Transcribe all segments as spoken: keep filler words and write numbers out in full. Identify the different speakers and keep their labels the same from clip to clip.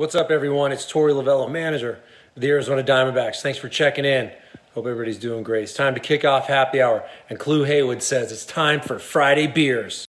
Speaker 1: What's up, everyone? It's Torey Lovullo, manager of the Arizona Diamondbacks. Thanks for checking in. Hope everybody's doing great. It's time to kick off happy hour, and Clue Haywood says it's time for Friday beers.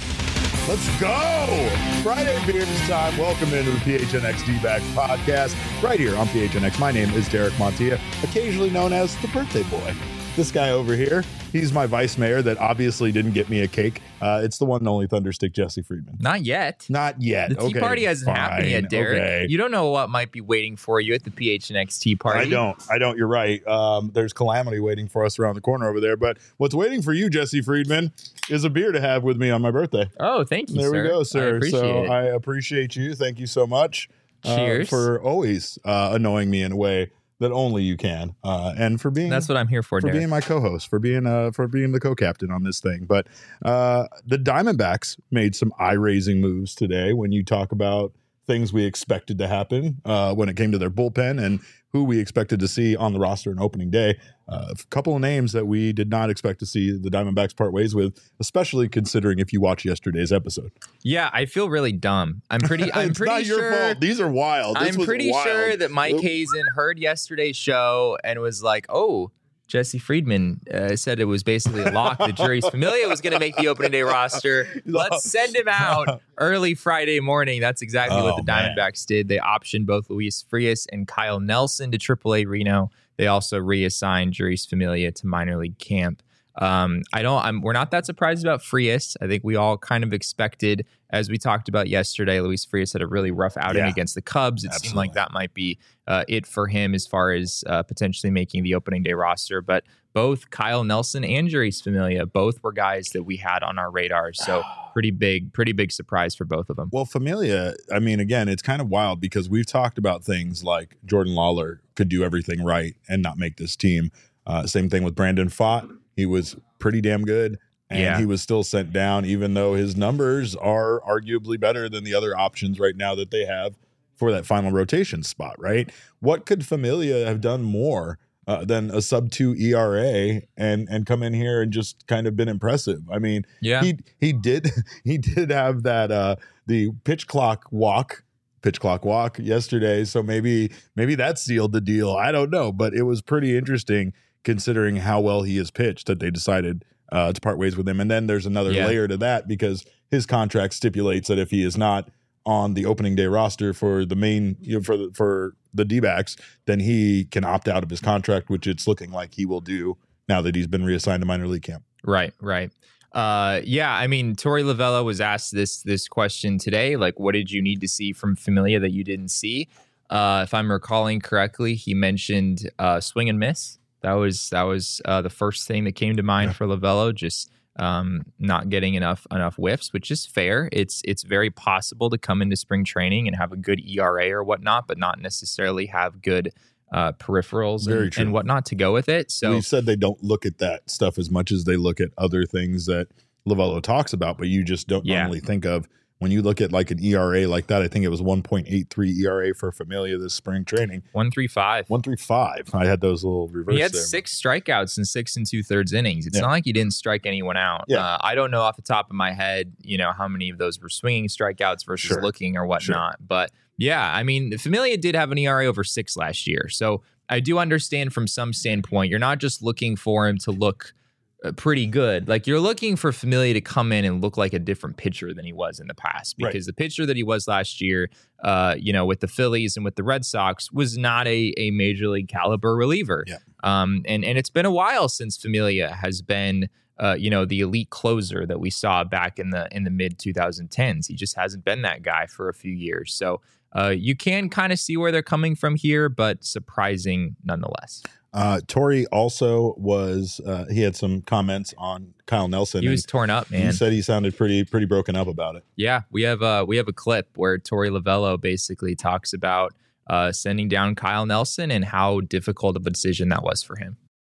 Speaker 2: Let's go! Friday beers time. Welcome into the P H N X D-Backs podcast right here on P H N X. My name is Derek Montilla, occasionally known as the birthday boy. This guy over here, he's my vice mayor that obviously didn't get me a cake. Uh, it's the one and only Thunderstick Jesse Friedman.
Speaker 3: Not yet.
Speaker 2: Not yet.
Speaker 3: The tea
Speaker 2: okay,
Speaker 3: party hasn't
Speaker 2: fine.
Speaker 3: happened yet, Derek.
Speaker 2: Okay.
Speaker 3: You don't know what might be waiting for you at the P H N X tea party.
Speaker 2: I don't. I don't. You're right. Um, there's calamity waiting for us around the corner over there. But what's waiting for you, Jesse Friedman, is a beer to have with me on my birthday.
Speaker 3: Oh, thank you,
Speaker 2: there
Speaker 3: sir.
Speaker 2: we go, sir.
Speaker 3: I appreciate
Speaker 2: so
Speaker 3: it.
Speaker 2: I appreciate you. Thank you so much.
Speaker 3: Cheers.
Speaker 2: Uh, for always uh, annoying me in a way that only you can, uh, and for being
Speaker 3: That's what I'm here for,
Speaker 2: for
Speaker 3: Derek.
Speaker 2: being my co-host, for being uh, for being the co-captain on this thing. But uh, the Diamondbacks made some eye-raising moves today. When you talk about things we expected to happen uh, when it came to their bullpen and who we expected to see on the roster on opening day, uh, a couple of names that we did not expect to see the Diamondbacks part ways with, especially considering if you watch yesterday's episode.
Speaker 3: Yeah, I feel really dumb. I'm pretty. I'm
Speaker 2: it's
Speaker 3: pretty
Speaker 2: not
Speaker 3: sure.
Speaker 2: your fault. These are wild. This
Speaker 3: I'm
Speaker 2: was
Speaker 3: pretty
Speaker 2: wild.
Speaker 3: sure that Mike
Speaker 2: Oop.
Speaker 3: Hazen heard yesterday's show and was like, "Oh, Jesse Friedman uh, said it was basically a lock that Juris Familia was going to make the opening day roster. Let's send him out early Friday morning." That's exactly
Speaker 2: Oh,
Speaker 3: what the Diamondbacks did. They optioned both Luis Frias and Kyle Nelson to triple A Reno. They also reassigned Juris Familia to minor league camp. Um, I don't. I'm. We're not that surprised about Frias. I think we all kind of expected, as we talked about yesterday, Luis Frias had a really rough outing
Speaker 2: Yeah,
Speaker 3: against the Cubs. It
Speaker 2: absolutely.
Speaker 3: seemed like that might be uh, it for him as far as uh, potentially making the opening day roster. But both Kyle Nelson and Juris Familia, both were guys that we had on our radar. So pretty big, pretty big surprise for both of them.
Speaker 2: Well, Familia, I mean, again, it's kind of wild because we've talked about things like Jordan Lawler could do everything right and not make this team. Uh, same thing with Brandon Pfaadt. He was pretty damn good, and
Speaker 3: Yeah.
Speaker 2: he was still sent down, even though his numbers are arguably better than the other options right now that they have for that final rotation spot, right? What could Familia have done more uh, than a sub two E R A and and come in here and just kind of been impressive? I mean,
Speaker 3: Yeah.
Speaker 2: he he did he did have that uh, the pitch clock walk. pitch clock walk yesterday. So maybe, maybe that sealed the deal. I don't know, but it was pretty interesting considering how well he has pitched that they decided uh, to part ways with him. And then there's another
Speaker 3: Yeah.
Speaker 2: layer to that because his contract stipulates that if he is not on the opening day roster for the main, you know, for the, for the D-backs, then he can opt out of his contract, which it's looking like he will do now that he's been reassigned to minor league camp.
Speaker 3: Right, right. Uh, yeah, I mean, Torey Lovullo was asked this this question today. Like, what did you need to see from Familia that you didn't see? Uh, if I'm recalling correctly, he mentioned uh, swing and miss. That was that was uh, the first thing that came to mind
Speaker 2: Yeah.
Speaker 3: for Lovullo. Just um, not getting enough enough whiffs, which is fair. It's it's very possible to come into spring training and have a good E R A or whatnot, but not necessarily have good uh, peripherals
Speaker 2: Very
Speaker 3: and,
Speaker 2: true.
Speaker 3: and whatnot to go with it. So
Speaker 2: We've said they don't look at that stuff as much as they look at other things that Lovullo talks about, but you just don't
Speaker 3: Yeah.
Speaker 2: normally think of when you look at like an E R A like that. I think it was one point eight three E R A for Familia this spring training.
Speaker 3: one three five.
Speaker 2: one three five. I had those little reverse
Speaker 3: He had
Speaker 2: there.
Speaker 3: six strikeouts in six and two thirds innings. It's
Speaker 2: Yeah.
Speaker 3: not like he didn't strike anyone out.
Speaker 2: Yeah.
Speaker 3: Uh, I don't know off the top of my head, you know, how many of those were swinging strikeouts versus
Speaker 2: Sure.
Speaker 3: looking or whatnot. But yeah, I mean, Familia did have an E R A over six last year. So I do understand from some standpoint, you're not just looking for him to look uh, pretty good. Like you're looking for Familia to come in and look like a different pitcher than he was in the past, because
Speaker 2: Right.
Speaker 3: the pitcher that he was last year, uh, you know, with the Phillies and with the Red Sox was not a, a major league caliber reliever.
Speaker 2: Yeah.
Speaker 3: Um, and, and it's been a while since Familia has been, uh, you know, the elite closer that we saw back in the in the mid twenty tens. He just hasn't been that guy for a few years. So uh, you can kind of see where they're coming from here, but surprising nonetheless.
Speaker 2: Uh, Torey also was, uh, he had some comments on Kyle Nelson.
Speaker 3: He was
Speaker 2: and
Speaker 3: torn up, man.
Speaker 2: He said he sounded pretty, pretty broken up about it.
Speaker 3: Yeah, we have uh, we have a clip where Torey Lovullo basically talks about uh, sending down Kyle Nelson and how difficult of a decision that was for him.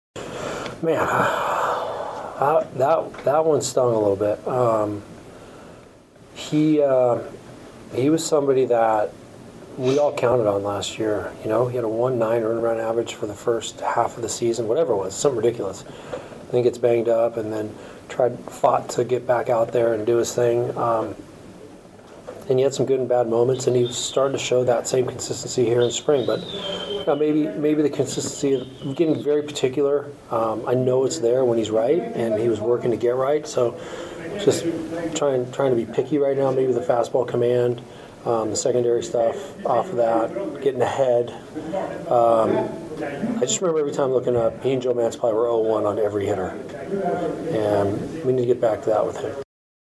Speaker 1: Man, I, that that one stung a little bit. Um, he uh, he was somebody that we all counted on last year. You know, he had a one nine earned run average for the first half of the season, whatever it was, something ridiculous. Then gets banged up and then tried fought to get back out there and do his thing. Um, and he had some good and bad moments, and he was starting to show that same consistency here in spring. But you know, maybe maybe the consistency of getting very particular. Um, I know it's there when he's right, and he was working to get right. So just trying trying to be picky right now. Maybe the fastball command, um, the secondary stuff off of that, getting ahead. Um, I just remember every time looking up, he and Joe Mantiply were oh one on every hitter, and we need to get back to that with him.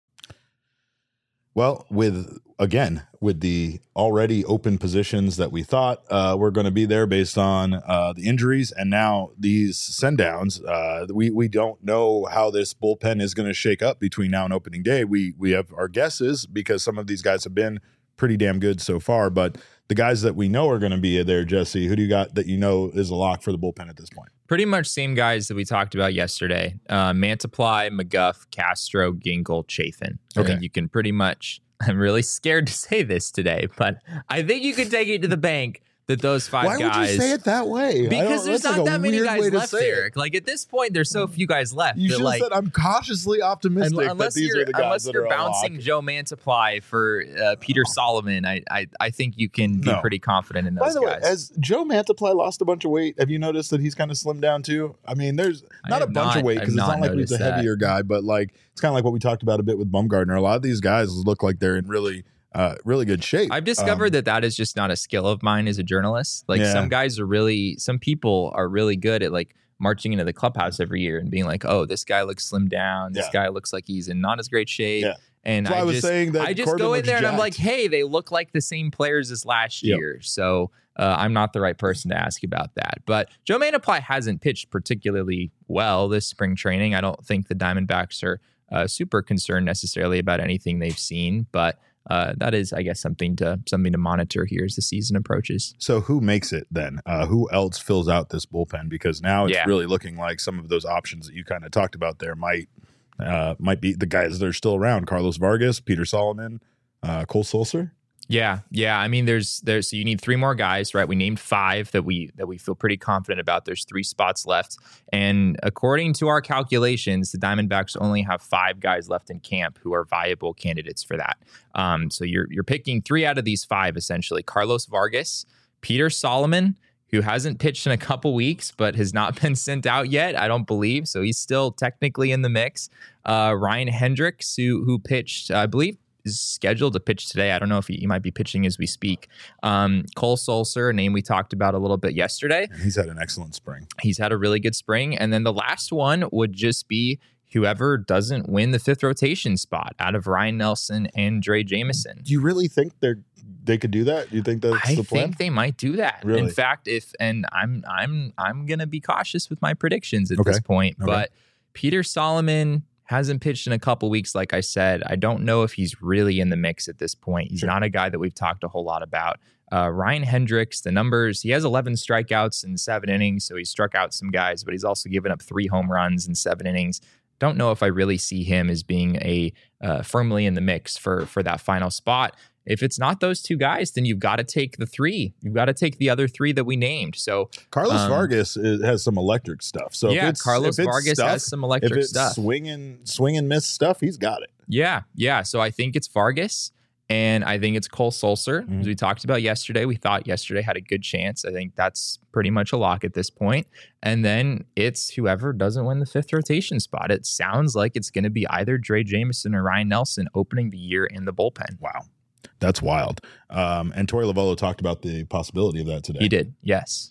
Speaker 2: Well, with again, with the already open positions that we thought uh, were going to be there based on uh, the injuries, and now these send downs, uh, we we don't know how this bullpen is going to shake up between now and opening day. We we have our guesses because some of these guys have been pretty damn good so far, but the guys that we know are going to be there, Jesse, who do you got that you know is a lock for the bullpen at this point?
Speaker 3: Pretty much same guys that we talked about yesterday. Uh, Mantiply, McGough, Castro, Ginkel, Chafin. I
Speaker 2: Okay.
Speaker 3: think you can pretty much, I'm really scared to say this today, but I think you can take it to the bank that those five
Speaker 2: Why
Speaker 3: guys.
Speaker 2: would you say it that way? I
Speaker 3: Because
Speaker 2: don't-
Speaker 3: there's
Speaker 2: that's
Speaker 3: not
Speaker 2: like a
Speaker 3: that many
Speaker 2: weird
Speaker 3: guys
Speaker 2: way to
Speaker 3: left,
Speaker 2: say it.
Speaker 3: Eric. Like at this point, there's so few guys left.
Speaker 2: You
Speaker 3: that,
Speaker 2: should have
Speaker 3: like,
Speaker 2: said I'm cautiously optimistic
Speaker 3: Un-
Speaker 2: that
Speaker 3: unless
Speaker 2: these
Speaker 3: you're
Speaker 2: are the guys
Speaker 3: unless
Speaker 2: that
Speaker 3: you're
Speaker 2: are a lock.
Speaker 3: bouncing Joe Mantiply for uh, Peter Solomon, I, I I think you can be
Speaker 2: No.
Speaker 3: pretty confident in those
Speaker 2: By the
Speaker 3: guys.
Speaker 2: way, has Joe Mantiply lost a bunch of weight? Have you noticed that he's kind of slimmed down too? I mean, there's
Speaker 3: I
Speaker 2: not a
Speaker 3: have
Speaker 2: bunch
Speaker 3: not-
Speaker 2: of weight
Speaker 3: I have
Speaker 2: because it's
Speaker 3: not
Speaker 2: not like he's a
Speaker 3: noticed that.
Speaker 2: heavier guy, but like it's kind of like what we talked about a bit with Bumgarner. A lot of these guys look like they're in really, uh, really good shape.
Speaker 3: I've discovered
Speaker 2: Um,
Speaker 3: that that is just not a skill of mine as a journalist. Like
Speaker 2: Yeah.
Speaker 3: some guys are really, some people are really good at like marching into the clubhouse every year and being like, oh, this guy looks slimmed down. This
Speaker 2: Yeah.
Speaker 3: guy looks like he's in not as great shape.
Speaker 2: Yeah.
Speaker 3: And
Speaker 2: That's why
Speaker 3: I,
Speaker 2: I was
Speaker 3: just,
Speaker 2: saying that
Speaker 3: I just
Speaker 2: Corbin
Speaker 3: go in
Speaker 2: looks
Speaker 3: there and I'm
Speaker 2: jacked.
Speaker 3: like, hey, they look like the same players as last
Speaker 2: Yep.
Speaker 3: year. So uh, I'm not the right person to ask about that. But Joe Mantiply hasn't pitched particularly well this spring training. I don't think the Diamondbacks are uh, super concerned necessarily about anything they've seen, but uh, that is, I guess, something to something to monitor here as the season approaches.
Speaker 2: So who makes it then? Uh, who else fills out this bullpen? Because now it's
Speaker 3: Yeah.
Speaker 2: really looking like some of those options that you kind of talked about there might uh, might be the guys that are still around: Carlos Vargas, Peter Solomon, uh, Cole Sulser.
Speaker 3: Yeah, yeah. I mean, there's there's so you need three more guys, right? We named five that we that we feel pretty confident about. There's three spots left, and according to our calculations, the Diamondbacks only have five guys left in camp who are viable candidates for that. Um, so you're you're picking three out of these five essentially: Carlos Vargas, Peter Solomon, who hasn't pitched in a couple weeks but has not been sent out yet, I don't believe. So he's still technically in the mix. Uh, Ryan Hendricks, who who pitched, I believe, is scheduled to pitch today. I don't know if he, he might be pitching as we speak. Um, Cole Sulser, a name we talked about a little bit yesterday.
Speaker 2: And he's had an excellent spring.
Speaker 3: He's had a really good spring. And then the last one would just be whoever doesn't win the fifth rotation spot out of Ryan Nelson and Dre Jameson.
Speaker 2: Do you really think they're they could do that? Do you think that's
Speaker 3: I
Speaker 2: the plan?
Speaker 3: think they might do that.
Speaker 2: Really?
Speaker 3: In fact, if and I'm I'm I'm gonna be cautious with my predictions at
Speaker 2: Okay.
Speaker 3: this point.
Speaker 2: Okay.
Speaker 3: But Peter Solomon hasn't pitched in a couple weeks, like I said. I don't know if he's really in the mix at this point. He's
Speaker 2: Sure.
Speaker 3: not a guy that we've talked a whole lot about. Uh, Ryan Hendricks, the numbers, he has eleven strikeouts in seven innings, so he struck out some guys, but he's also given up three home runs in seven innings. Don't know if I really see him as being a uh, firmly in the mix for for that final spot. If it's not those two guys, then you've got to take the three. You've got to take the other three that we named. So
Speaker 2: Carlos
Speaker 3: Um,
Speaker 2: Vargas is, has some electric stuff. So if
Speaker 3: yeah,
Speaker 2: it's,
Speaker 3: Carlos
Speaker 2: if it's
Speaker 3: Vargas
Speaker 2: stuff,
Speaker 3: has some
Speaker 2: if
Speaker 3: electric
Speaker 2: it's
Speaker 3: stuff.
Speaker 2: swing and swing and miss stuff, he's got it.
Speaker 3: Yeah, yeah. So I think it's Vargas, and I think it's Cole Sulser.
Speaker 2: Mhm.
Speaker 3: As we talked about yesterday, we thought yesterday had a good chance. I think that's pretty much a lock at this point. And then it's whoever doesn't win the fifth rotation spot. It sounds like it's going to be either Dre Jameson or Ryan Nelson opening the year in the bullpen.
Speaker 2: Wow. That's wild. Um, and Torey Lovullo talked about the possibility of that today.
Speaker 3: He did, yes.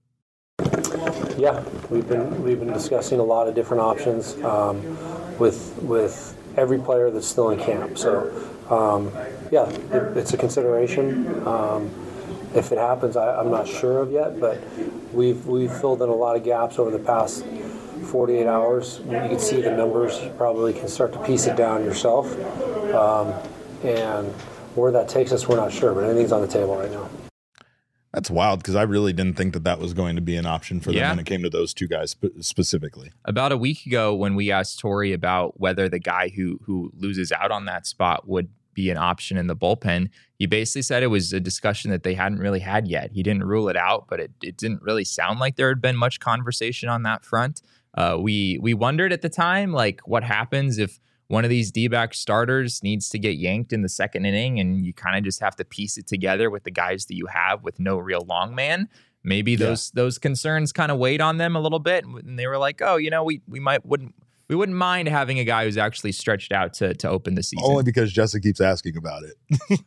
Speaker 1: Yeah, we've been we've been discussing a lot of different options um, with with every player that's still in camp. So um, yeah, it, it's a consideration. Um, if it happens, I, I'm not sure of yet, but we've we've filled in a lot of gaps over the past forty-eight hours. You can see the numbers. You probably can start to piece it down yourself. Um, and where that takes us, we're not sure, but anything's on the table right now.
Speaker 2: That's wild because I really didn't think that that was going to be an option for them
Speaker 3: Yeah.
Speaker 2: when it came to those two guys spe- specifically.
Speaker 3: About a week ago, when we asked Torey about whether the guy who who loses out on that spot would be an option in the bullpen, he basically said it was a discussion that they hadn't really had yet. He didn't rule it out, but it, it didn't really sound like there had been much conversation on that front. Uh, we we wondered at the time, like, what happens if one of these D-back starters needs to get yanked in the second inning, and you kind of just have to piece it together with the guys that you have with no real long man. Maybe
Speaker 2: Yeah.
Speaker 3: those those concerns kind of weighed on them a little bit, and they were like, oh, you know, we we might wouldn't we wouldn't mind having a guy who's actually stretched out to to open the season.
Speaker 2: Only because Jesse keeps asking about it.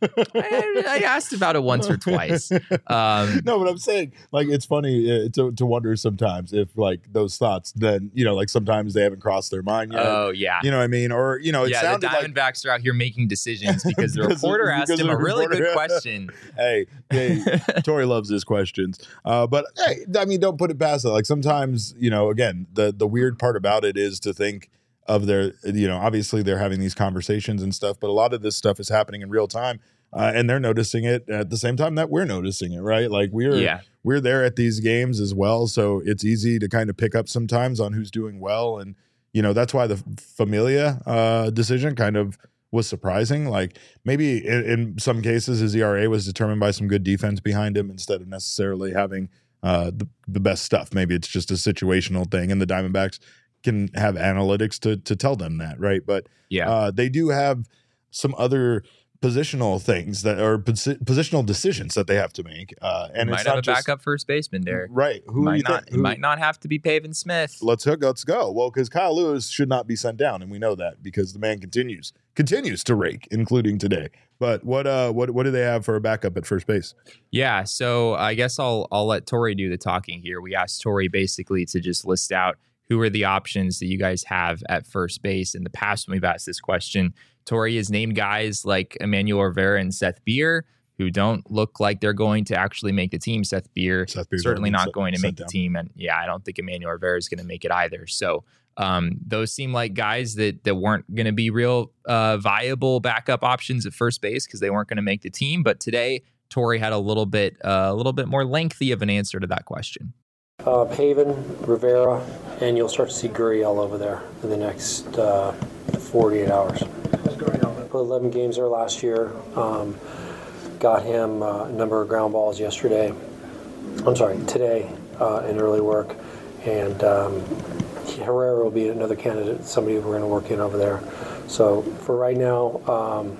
Speaker 3: I, I asked about it once or twice. Um,
Speaker 2: No, but I'm saying, like, it's funny uh, to to wonder sometimes if, like, those thoughts, then, you know, like, sometimes they haven't crossed their mind yet.
Speaker 3: oh yeah.
Speaker 2: You know what I mean? Or, you know, it
Speaker 3: Yeah, the
Speaker 2: sounded like,
Speaker 3: Diamondbacks are out here making decisions because the
Speaker 2: Because-
Speaker 3: reporter asked
Speaker 2: because
Speaker 3: him
Speaker 2: the
Speaker 3: a really
Speaker 2: reporter-
Speaker 3: good question.
Speaker 2: hey, hey, Tori loves his questions. Uh, but, hey, I mean, don't put it past it. Like, sometimes, you know, again, the the weird part about it is to think of their, you know, obviously they're having these conversations and stuff, but a lot of this stuff is happening in real time. Uh, and they're noticing it at the same time that we're noticing it, right? Like we're
Speaker 3: Yeah.
Speaker 2: we're there at these games as well, so it's easy to kind of pick up sometimes on who's doing well, and you know that's why the Familia uh, decision kind of was surprising. Like maybe in, in some cases his E R A was determined by some good defense behind him instead of necessarily having uh, the the best stuff. Maybe it's just a situational thing, and the Diamondbacks can have analytics to to tell them that, right? But
Speaker 3: Yeah.
Speaker 2: uh, they do have some other positional things that are posi- positional decisions that they have to make, uh, and
Speaker 3: might
Speaker 2: it's
Speaker 3: have
Speaker 2: not
Speaker 3: a
Speaker 2: just
Speaker 3: backup first baseman, Derek.
Speaker 2: right. Who do
Speaker 3: might
Speaker 2: you
Speaker 3: not,
Speaker 2: think?
Speaker 3: it
Speaker 2: who-
Speaker 3: might not have to be Pavin Smith.
Speaker 2: Let's hook. Let's go. Well, because Kyle Lewis should not be sent down, and we know that because the man continues continues to rake, including today. But what uh what what do they have for a backup at first base?
Speaker 3: Yeah, so I guess I'll I'll let Tori do the talking here. We asked Tori basically to just list out who are the options that you guys have at first base. In the past, when we've asked this question, Tori has named guys like Emmanuel Rivera and Seth Beer, who don't look like they're going to actually make the team. Seth Beer
Speaker 2: Seth Beer's
Speaker 3: certainly
Speaker 2: already
Speaker 3: not
Speaker 2: set-
Speaker 3: going to
Speaker 2: set
Speaker 3: make the
Speaker 2: down.
Speaker 3: team, and yeah, I don't think Emmanuel Rivera is going to make it either. So um, those seem like guys that that weren't going to be real uh, viable backup options at first base because they weren't going to make the team. But today, Tori had a little bit uh, a little bit more lengthy of an answer to that question.
Speaker 1: Uh, Pavin, Rivera, and you'll start to see Gurriel over there in the next uh, forty-eight hours. Put eleven games there last year. Um, got him uh, a number of ground balls yesterday. I'm sorry, today uh, in early work. And um, Herrera will be another candidate, somebody we're going to work in over there. So for right now, um,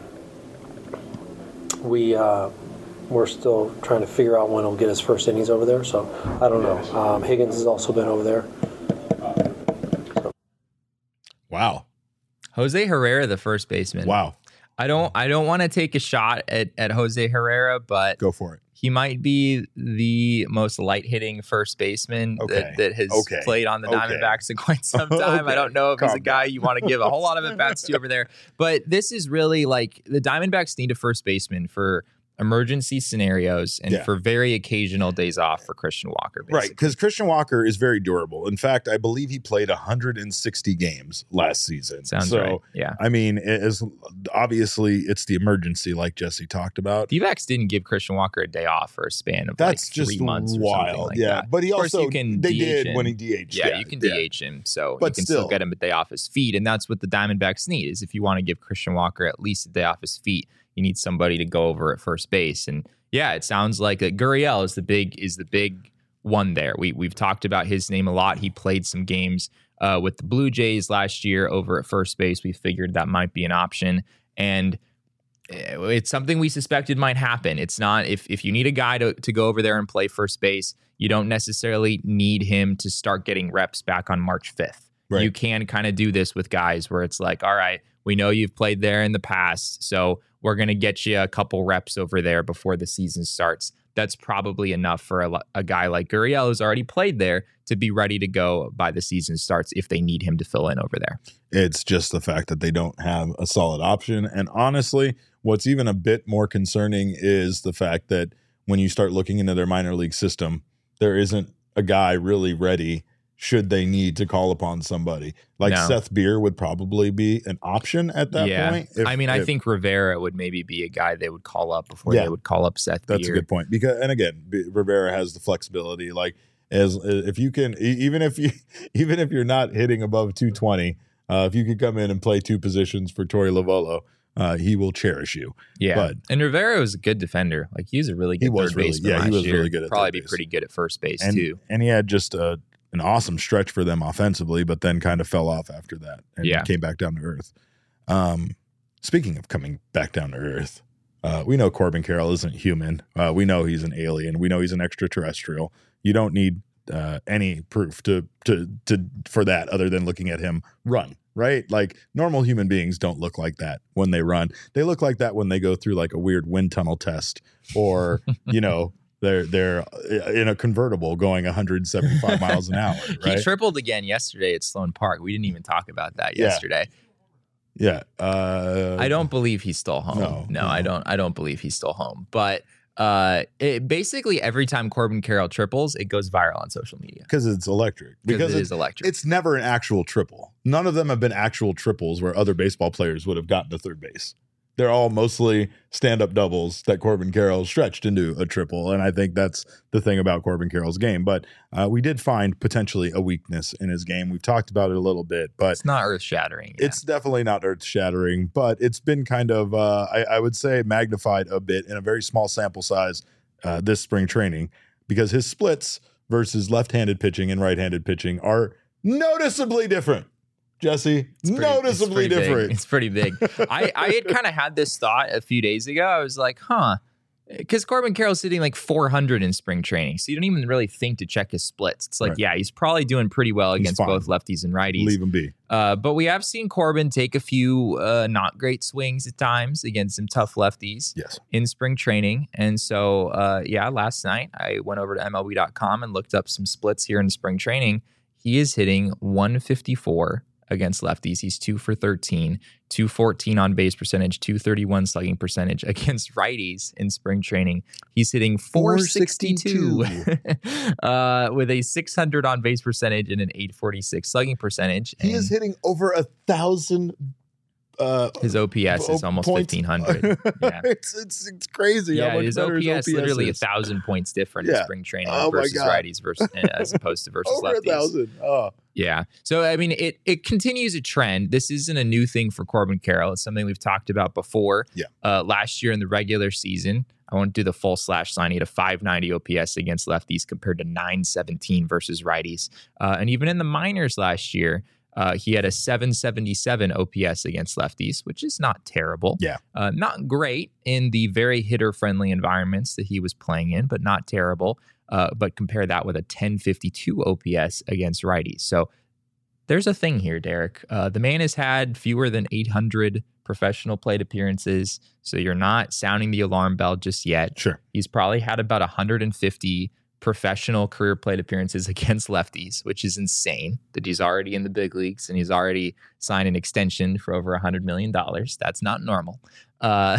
Speaker 1: we... Uh, We're still trying to figure out when he'll get his first innings over there, so I don't know. Um, Higgins has also been over there.
Speaker 2: Wow,
Speaker 3: Jose Herrera, the first baseman.
Speaker 2: wow,
Speaker 3: I don't I don't want to take a shot at, at Jose Herrera, but
Speaker 2: go for it.
Speaker 3: he might be the most light hitting first baseman
Speaker 2: Okay.
Speaker 3: that, that has
Speaker 2: Okay.
Speaker 3: played on the
Speaker 2: Okay.
Speaker 3: Diamondbacks in quite some time.
Speaker 2: Okay.
Speaker 3: I don't know if he's
Speaker 2: Calm
Speaker 3: a guy you want to give a whole lot of at bats to over there, but this is really like the Diamondbacks need a first baseman for emergency scenarios and
Speaker 2: Yeah.
Speaker 3: for very occasional days off for Christian Walker. Basically.
Speaker 2: Right, because Christian Walker is very durable. In fact, I believe he played one hundred sixty games last season.
Speaker 3: Sounds
Speaker 2: so,
Speaker 3: right. Yeah.
Speaker 2: I mean, it is obviously it's the emergency, like Jesse talked about.
Speaker 3: D-backs didn't give Christian Walker a day off for a span of
Speaker 2: That's
Speaker 3: like
Speaker 2: just
Speaker 3: three months or
Speaker 2: wild.
Speaker 3: something like
Speaker 2: yeah,
Speaker 3: that.
Speaker 2: but he
Speaker 3: Of course,
Speaker 2: also
Speaker 3: you can
Speaker 2: they
Speaker 3: D H
Speaker 2: did
Speaker 3: him.
Speaker 2: when he D H'd.
Speaker 3: Yeah, you can D H him, so
Speaker 2: But
Speaker 3: you can
Speaker 2: still.
Speaker 3: still get him a day off his feet, and that's what the Diamondbacks need. Is if you want to give Christian Walker at least a day off his feet, you need somebody to go over at first base. And yeah, it sounds like that Gurriel is the big is the big one there. We we've talked about his name a lot. He played some games uh, with the Blue Jays last year over at first base. We figured that might be an option, and it's something we suspected might happen. It's not if if you need a guy to, to go over there and play first base, you don't necessarily need him to start getting reps back on March fifth.
Speaker 2: Right.
Speaker 3: You can kind of do this with guys where it's like, all right, we know you've played there in the past, so we're going to get you a couple reps over there before the season starts. That's probably enough for a, a guy like Gurriel who's already played there to be ready to go by the season starts if they need him to fill in over there.
Speaker 2: It's just the fact that they don't have a solid option. And honestly, what's even a bit more concerning is the fact that when you start looking into their minor league system, there isn't a guy really ready should they need to call upon somebody. Like
Speaker 3: No.
Speaker 2: Seth Beer would probably be an option at that
Speaker 3: yeah.
Speaker 2: point. if-
Speaker 3: I mean, I
Speaker 2: if-
Speaker 3: think Rivera would maybe be a guy they would call up before
Speaker 2: Yeah.
Speaker 3: they would call up Seth
Speaker 2: that's
Speaker 3: Beer.
Speaker 2: a good point. Because, and again, B- Rivera has the flexibility. Like, as if you can, e- even if you, even if you're not hitting above two twenty, uh, if you could come in and play two positions for Torey Lovullo, uh, he will cherish you.
Speaker 3: Yeah,
Speaker 2: But-
Speaker 3: and Rivera was a good defender. Like he was a really good
Speaker 2: He was
Speaker 3: third
Speaker 2: really-
Speaker 3: baseman
Speaker 2: yeah, he
Speaker 3: last
Speaker 2: was
Speaker 3: year.
Speaker 2: really good at
Speaker 3: Probably
Speaker 2: third
Speaker 3: be
Speaker 2: base.
Speaker 3: pretty good at first base
Speaker 2: And,
Speaker 3: too.
Speaker 2: and he had just a, an awesome stretch for them offensively, but then kind of fell off after that and
Speaker 3: Yeah.
Speaker 2: came back down to earth. Um, speaking of coming back down to earth, uh, we know Corbin Carroll isn't human. Uh, we know he's an alien. We know he's an extraterrestrial. You don't need uh, any proof to to to for that other than looking at him run. Right? Like normal human beings don't look like that when they run. They look like that when they go through like a weird wind tunnel test, or you know. They're they're in a convertible going one hundred seventy-five miles an hour. Right?
Speaker 3: He tripled again yesterday at Sloan Park. We didn't even talk about that
Speaker 2: Yeah.
Speaker 3: yesterday.
Speaker 2: Yeah. Uh,
Speaker 3: I don't believe he's still home.
Speaker 2: No,
Speaker 3: No,
Speaker 2: no.
Speaker 3: I don't. I don't believe he's still home. But uh, it, basically, every time Corbin Carroll triples, it goes viral on social media
Speaker 2: because it's electric.
Speaker 3: because it
Speaker 2: it's,
Speaker 3: is electric.
Speaker 2: it's never an actual triple. None of them have been actual triples where other baseball players would have gotten to third base. They're all mostly stand-up doubles that Corbin Carroll stretched into a triple, and I think that's the thing about Corbin Carroll's game. But uh, we did find potentially a weakness in his game. We've talked about it a little bit, but
Speaker 3: it's not earth shattering. Yeah.
Speaker 2: it's definitely not earth-shattering. But it's been kind of, uh, I, I would say, magnified a bit in a very small sample size uh, this spring training, because his splits versus left-handed pitching and right-handed pitching are noticeably different. Jesse,
Speaker 3: It's pretty-
Speaker 2: noticeably
Speaker 3: it's pretty
Speaker 2: different.
Speaker 3: Big. It's pretty big. I, I had kind of had this thought a few days ago. I was like, huh. Because Corbin Carroll's hitting like four hundred in spring training. So you don't even really think to check his splits. It's like,
Speaker 2: Right.
Speaker 3: yeah, he's probably doing pretty well
Speaker 2: He's
Speaker 3: against
Speaker 2: fine.
Speaker 3: both lefties and righties.
Speaker 2: Leave him be.
Speaker 3: Uh, but we have seen Corbin take a few uh, not great swings at times against some tough lefties
Speaker 2: Yes.
Speaker 3: in spring training. And so, uh, yeah, last night I went over to M L B dot com and looked up some splits here in spring training. He is hitting one fifty-four against lefties. He's two for thirteen, two fourteen on base percentage, two thirty-one slugging percentage against righties in spring training. He's hitting four sixty-two uh, with a six hundred on base percentage and an eight forty-six slugging percentage.
Speaker 2: He
Speaker 3: And
Speaker 2: is hitting over a thousand. Uh,
Speaker 3: his O P S is
Speaker 2: po-
Speaker 3: almost
Speaker 2: points.
Speaker 3: fifteen hundred. Yeah.
Speaker 2: it's, it's it's crazy. how
Speaker 3: Yeah,
Speaker 2: much
Speaker 3: his
Speaker 2: better
Speaker 3: O P S literally a
Speaker 2: is.
Speaker 3: thousand points different
Speaker 2: Yeah.
Speaker 3: in spring training
Speaker 2: Oh my
Speaker 3: versus
Speaker 2: God.
Speaker 3: righties versus as opposed to versus
Speaker 2: Over a
Speaker 3: lefties.
Speaker 2: thousand. Oh,
Speaker 3: Yeah. So, I mean, it it continues a trend. This isn't a new thing for Corbin Carroll. It's something we've talked about before.
Speaker 2: Yeah.
Speaker 3: Uh, last year in the regular season, I won't do the full slash sign. He had a five ninety O P S against lefties compared to nine seventeen versus righties. Uh, and even in the minors last year, uh, he had a seven seventy-seven O P S against lefties, which is not terrible.
Speaker 2: Yeah.
Speaker 3: Uh, not great in the very hitter-friendly environments that he was playing in, but not terrible. Uh, but compare that with a ten fifty-two O P S against righties. So there's a thing here, Derek. Uh, the man has had fewer than eight hundred professional plate appearances, so you're not sounding the alarm bell just yet.
Speaker 2: sure.
Speaker 3: He's probably had about one hundred fifty professional career plate appearances against lefties, which is insane that he's already in the big leagues and he's already signed an extension for over one hundred million dollars. That's not normal. Uh,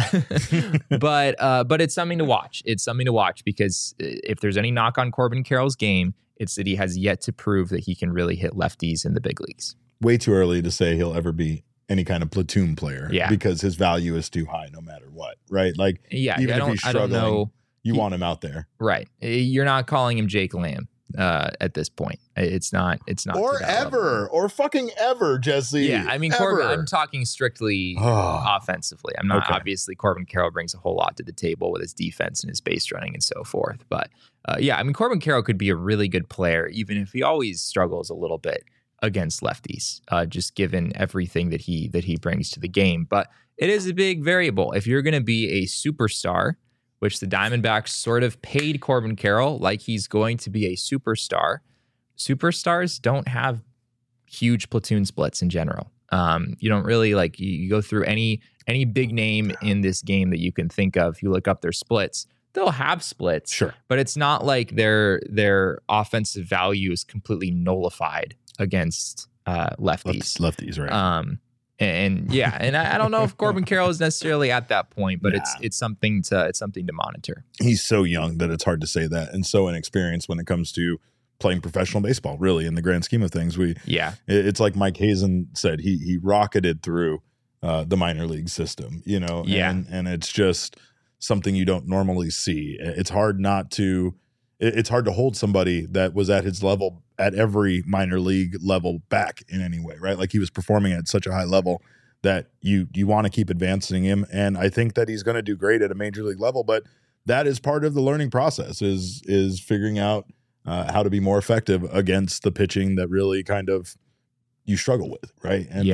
Speaker 3: but uh, but it's something to watch. It's something to watch because if there's any knock on Corbin Carroll's game, it's that he has yet to prove that he can really hit lefties in the big leagues.
Speaker 2: Way too early to say he'll ever be any kind of platoon player.
Speaker 3: Yeah.
Speaker 2: Because his value is too high no matter what. Right. Like
Speaker 3: Yeah,
Speaker 2: Even
Speaker 3: I
Speaker 2: if
Speaker 3: don't,
Speaker 2: he's
Speaker 3: I don't
Speaker 2: struggling,
Speaker 3: know.
Speaker 2: you
Speaker 3: He-
Speaker 2: want him out there.
Speaker 3: Right. You're not calling him Jake Lamb uh, at this point. It's not. It's not.
Speaker 2: Or
Speaker 3: to that level.
Speaker 2: ever. Or fucking ever, Jesse.
Speaker 3: Yeah, I mean,
Speaker 2: Ever.
Speaker 3: Corbin. I'm talking strictly
Speaker 2: Oh.
Speaker 3: offensively. I'm not
Speaker 2: Okay.
Speaker 3: obviously Corbin Carroll brings a whole lot to the table with his defense and his base running and so forth. But uh, yeah, I mean, Corbin Carroll could be a really good player, even if he always struggles a little bit against lefties, uh, just given everything that he that he brings to the game. But it is a big variable. If you're going to be a superstar, which the Diamondbacks sort of paid Corbin Carroll like he's going to be a superstar. Superstars don't have huge platoon splits in general. Um, you don't really like you, you go through any any big name in this game that you can think of. You look up their splits, they'll have splits,
Speaker 2: Sure.
Speaker 3: but it's not like their their offensive value is completely nullified against uh, lefties.
Speaker 2: Lefties, lefties, right.
Speaker 3: Um, and yeah, and I, I don't know if Corbin Carroll is necessarily at that point, but
Speaker 2: Nah.
Speaker 3: it's it's something to it's something to monitor.
Speaker 2: He's so young that it's hard to say that, and so inexperienced when it comes to playing professional baseball, really, in the grand scheme of things. We
Speaker 3: Yeah,
Speaker 2: it- it's like Mike Hazen said, he he rocketed through uh, the minor league system, you know,
Speaker 3: Yeah.
Speaker 2: and, and it's just something you don't normally see. It's hard not to, it- it's hard to hold somebody that was at his level at every minor league level back in any way, right? Like he was performing at such a high level that you you want to keep advancing him, and I think that he's going to do great at a major league level, but that is part of the learning process is is figuring out uh, how to be more effective against the pitching that really kind of you struggle with, right? And
Speaker 3: yeah.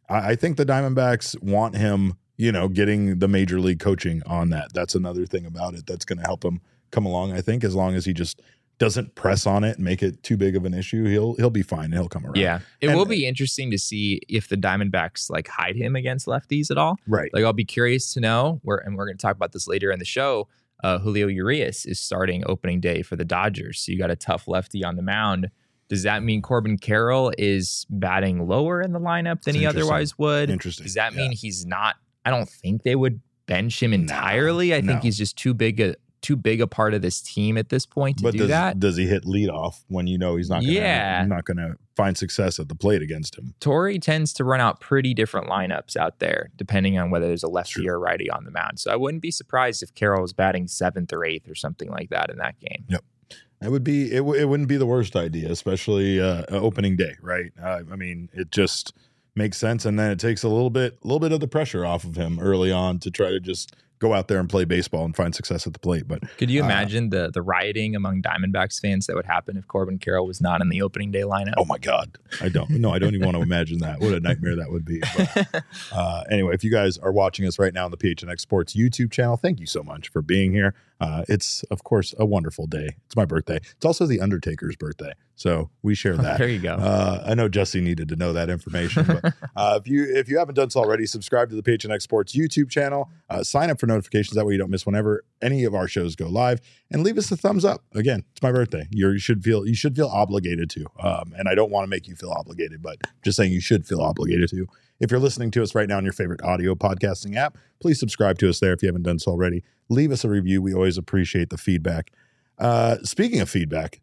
Speaker 2: I, I think the Diamondbacks want him, you know, getting the major league coaching on that. That's another thing about it that's going to help him come along. I think as long as he just doesn't press on it and make it too big of an issue, he'll he'll be fine. He'll come around.
Speaker 3: Yeah, it
Speaker 2: and,
Speaker 3: will be interesting to see if the Diamondbacks like hide him against lefties at all.
Speaker 2: Right.
Speaker 3: Like I'll be curious to know where, and we're going to talk about this later in the show. Uh, Julio Urias is starting opening day for the Dodgers, so you got a tough lefty on the mound. Does that mean Corbin Carroll is batting lower in the lineup than
Speaker 2: It's
Speaker 3: he otherwise would?
Speaker 2: Interesting.
Speaker 3: Does that
Speaker 2: Yeah.
Speaker 3: mean he's not? I don't think they would bench him entirely.
Speaker 2: No,
Speaker 3: I think
Speaker 2: no.
Speaker 3: he's just too big a too big a part of this team at this point to
Speaker 2: but
Speaker 3: do
Speaker 2: does,
Speaker 3: that.
Speaker 2: does he hit leadoff when you know he's not gonna,
Speaker 3: Yeah.
Speaker 2: not going to find success at the plate against him?
Speaker 3: Torrey tends to run out pretty different lineups out there, depending on whether there's a lefty
Speaker 2: True.
Speaker 3: or righty on the mound. So I wouldn't be surprised if Carroll was batting seventh or eighth or something like that in that game.
Speaker 2: Yep. It would be it, w- it wouldn't be the worst idea, especially uh, opening day, right? Uh, I mean, it just makes sense, and then it takes a little bit a little bit of the pressure off of him early on to try to just go out there and play baseball and find success at the plate. But
Speaker 3: Could you
Speaker 2: uh,
Speaker 3: imagine the the rioting among Diamondbacks fans that would happen if Corbin Carroll was not in the opening day lineup?
Speaker 2: oh my God, I don't no, I don't even want to imagine that. What a nightmare that would be. But, uh, anyway, if you guys are watching us right now on the P H N X Sports YouTube channel, thank you so much for being here. Uh, it's of course a wonderful day. It's my birthday. It's also the Undertaker's birthday, so we share that.
Speaker 3: There you go.
Speaker 2: Uh, I know Jesse needed to know that information, but uh, if you if you haven't done so already, subscribe to the P H N X Sports YouTube channel. Uh, sign up for notifications that way you don't miss whenever any of our shows go live, and leave us a thumbs up. Again, it's my birthday. You're, you should feel you should feel obligated to, um, and I don't want to make you feel obligated, but just saying you should feel obligated to. If you're listening to us right now on your favorite audio podcasting app, please subscribe to us there if you haven't done so already. Leave us a review. We always appreciate the feedback. Uh, speaking of feedback,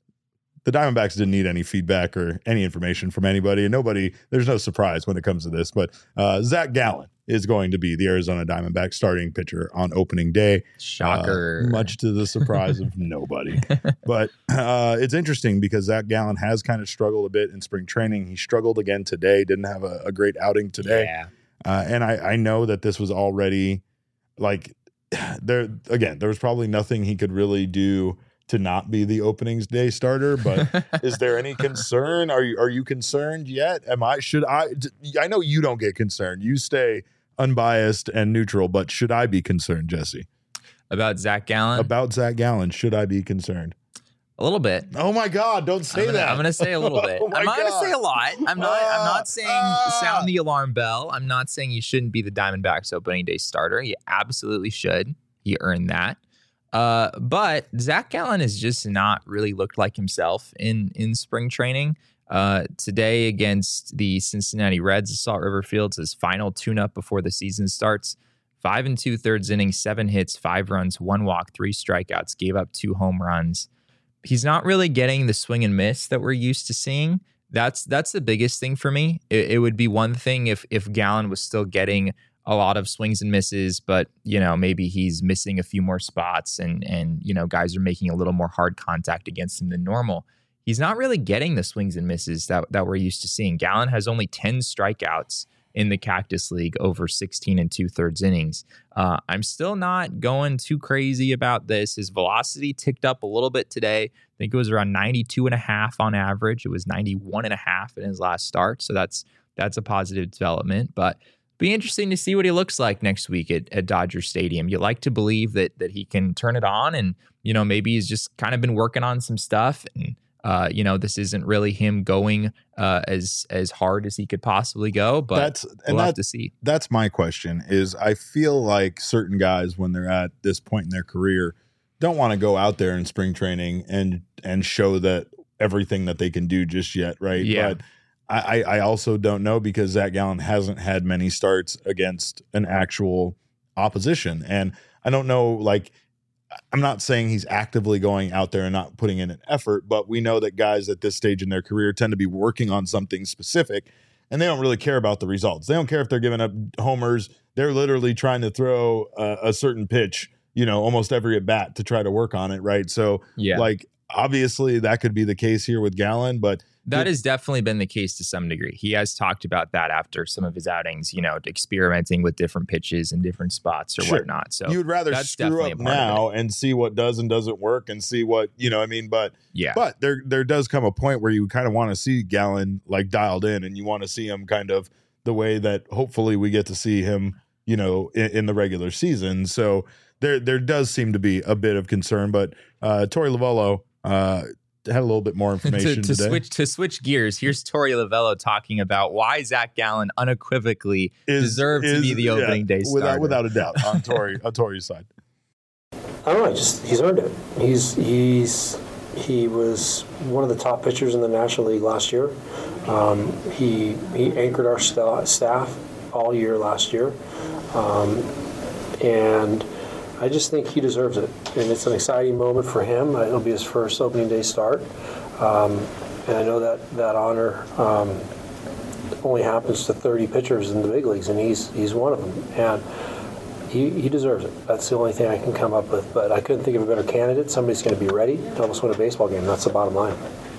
Speaker 2: the Diamondbacks didn't need any feedback or any information from anybody, and nobody, there's no surprise when it comes to this, but uh, Zach Gallen is going to be the Arizona Diamondbacks starting pitcher on opening day.
Speaker 3: Shocker.
Speaker 2: Uh, much to the surprise of nobody. But uh, it's interesting because Zach Gallen has kind of struggled a bit in spring training. He struggled again today, didn't have a, a great outing today.
Speaker 3: Yeah.
Speaker 2: Uh, and I, I know that this was already like there again, there was probably nothing he could really do to not be the openings day starter, but is there any concern? Are you are you concerned yet? Am I should I I know you don't get concerned. You stay unbiased and neutral, but should I be concerned, Jesse?
Speaker 3: About Zach Gallen?
Speaker 2: About Zach Gallen, should I be concerned?
Speaker 3: A little bit.
Speaker 2: Oh my God, don't say
Speaker 3: I'm gonna,
Speaker 2: that.
Speaker 3: I'm gonna say a little bit.
Speaker 2: Oh my
Speaker 3: I'm not gonna
Speaker 2: God.
Speaker 3: say a lot. I'm not. I'm not saying
Speaker 2: Ah.
Speaker 3: sound the alarm bell. I'm not saying you shouldn't be the Diamondbacks opening day starter. You absolutely should. He earned that. Uh, but Zach Gallen has just not really looked like himself in in spring training. Uh, today against the Cincinnati Reds, at Salt River Fields, his final tune-up before the season starts. Five and two thirds innings, seven hits, five runs, one walk, three strikeouts, gave up two home runs. He's not really getting the swing and miss that we're used to seeing. That's that's the biggest thing for me. It, it would be one thing if if Gallen was still getting a lot of swings and misses, but you know maybe he's missing a few more spots, and and you know guys are making a little more hard contact against him than normal. He's not really getting the swings and misses that that we're used to seeing. Gallen has only ten strikeouts in the Cactus League over sixteen and two thirds innings. Uh, I'm still not going too crazy about this. His velocity ticked up a little bit today. I think it was around ninety-two and a half on average. It was ninety-one and a half in his last start. So that's that's a positive development. But be interesting to see what he looks like next week at, at Dodger Stadium. You like to believe that that he can turn it on, and you know maybe he's just kind of been working on some stuff, and uh, you know this isn't really him going uh, as as hard as he could possibly go. But
Speaker 2: That's and
Speaker 3: we'll have
Speaker 2: that,
Speaker 3: to see.
Speaker 2: That's my question. Is I feel like certain guys when they're at this point in their career don't want to go out there in spring training and and show that everything that they can do just yet, right?
Speaker 3: Yeah.
Speaker 2: But I, I also don't know because Zach Gallen hasn't had many starts against an actual opposition. And I don't know, like, I'm not saying he's actively going out there and not putting in an effort, but we know that guys at this stage in their career tend to be working on something specific, and they don't really care about the results. They don't care if they're giving up homers. They're literally trying to throw a, a certain pitch, you know, almost every at bat to try to work on it, right? So,
Speaker 3: Yeah.
Speaker 2: like, obviously that could be the case here with Gallen, but
Speaker 3: That has definitely been the case to some degree. He has talked about that after some of his outings, you know, experimenting with different pitches and different spots or
Speaker 2: Sure.
Speaker 3: whatnot. So
Speaker 2: you would rather
Speaker 3: that's
Speaker 2: screw
Speaker 3: definitely
Speaker 2: up
Speaker 3: a part of
Speaker 2: now and see what does and doesn't work and see what, you know what I mean? But
Speaker 3: yeah,
Speaker 2: But there there does come a point where you kind of want to see Gallen like dialed in, and you want to see him kind of the way that hopefully we get to see him, you know, in, in the regular season. So there there does seem to be a bit of concern, but uh, Torey Lovullo uh, had a little bit more information
Speaker 3: to, to
Speaker 2: today.
Speaker 3: switch to switch gears. Here's Torey Lovullo talking about why Zach Gallen unequivocally
Speaker 2: Is-
Speaker 3: deserved to
Speaker 2: is-
Speaker 3: be the opening
Speaker 2: yeah,
Speaker 3: day starter.
Speaker 2: without without a doubt on Torey on Torey's side.
Speaker 1: I don't know. Just he's earned it. He's he's he was one of the top pitchers in the National League last year. Um, he he anchored our sta- staff all year last year, um, and I just think he deserves it. And it's an exciting moment for him. It'll be his first opening day start, um, and I know that that honor um, only happens to thirty pitchers in the big leagues, and he's he's one of them. And He, he deserves it. That's the only thing I can come up with. But I couldn't think of a better candidate. Somebody's going to be ready to almost win a baseball game. That's the bottom line.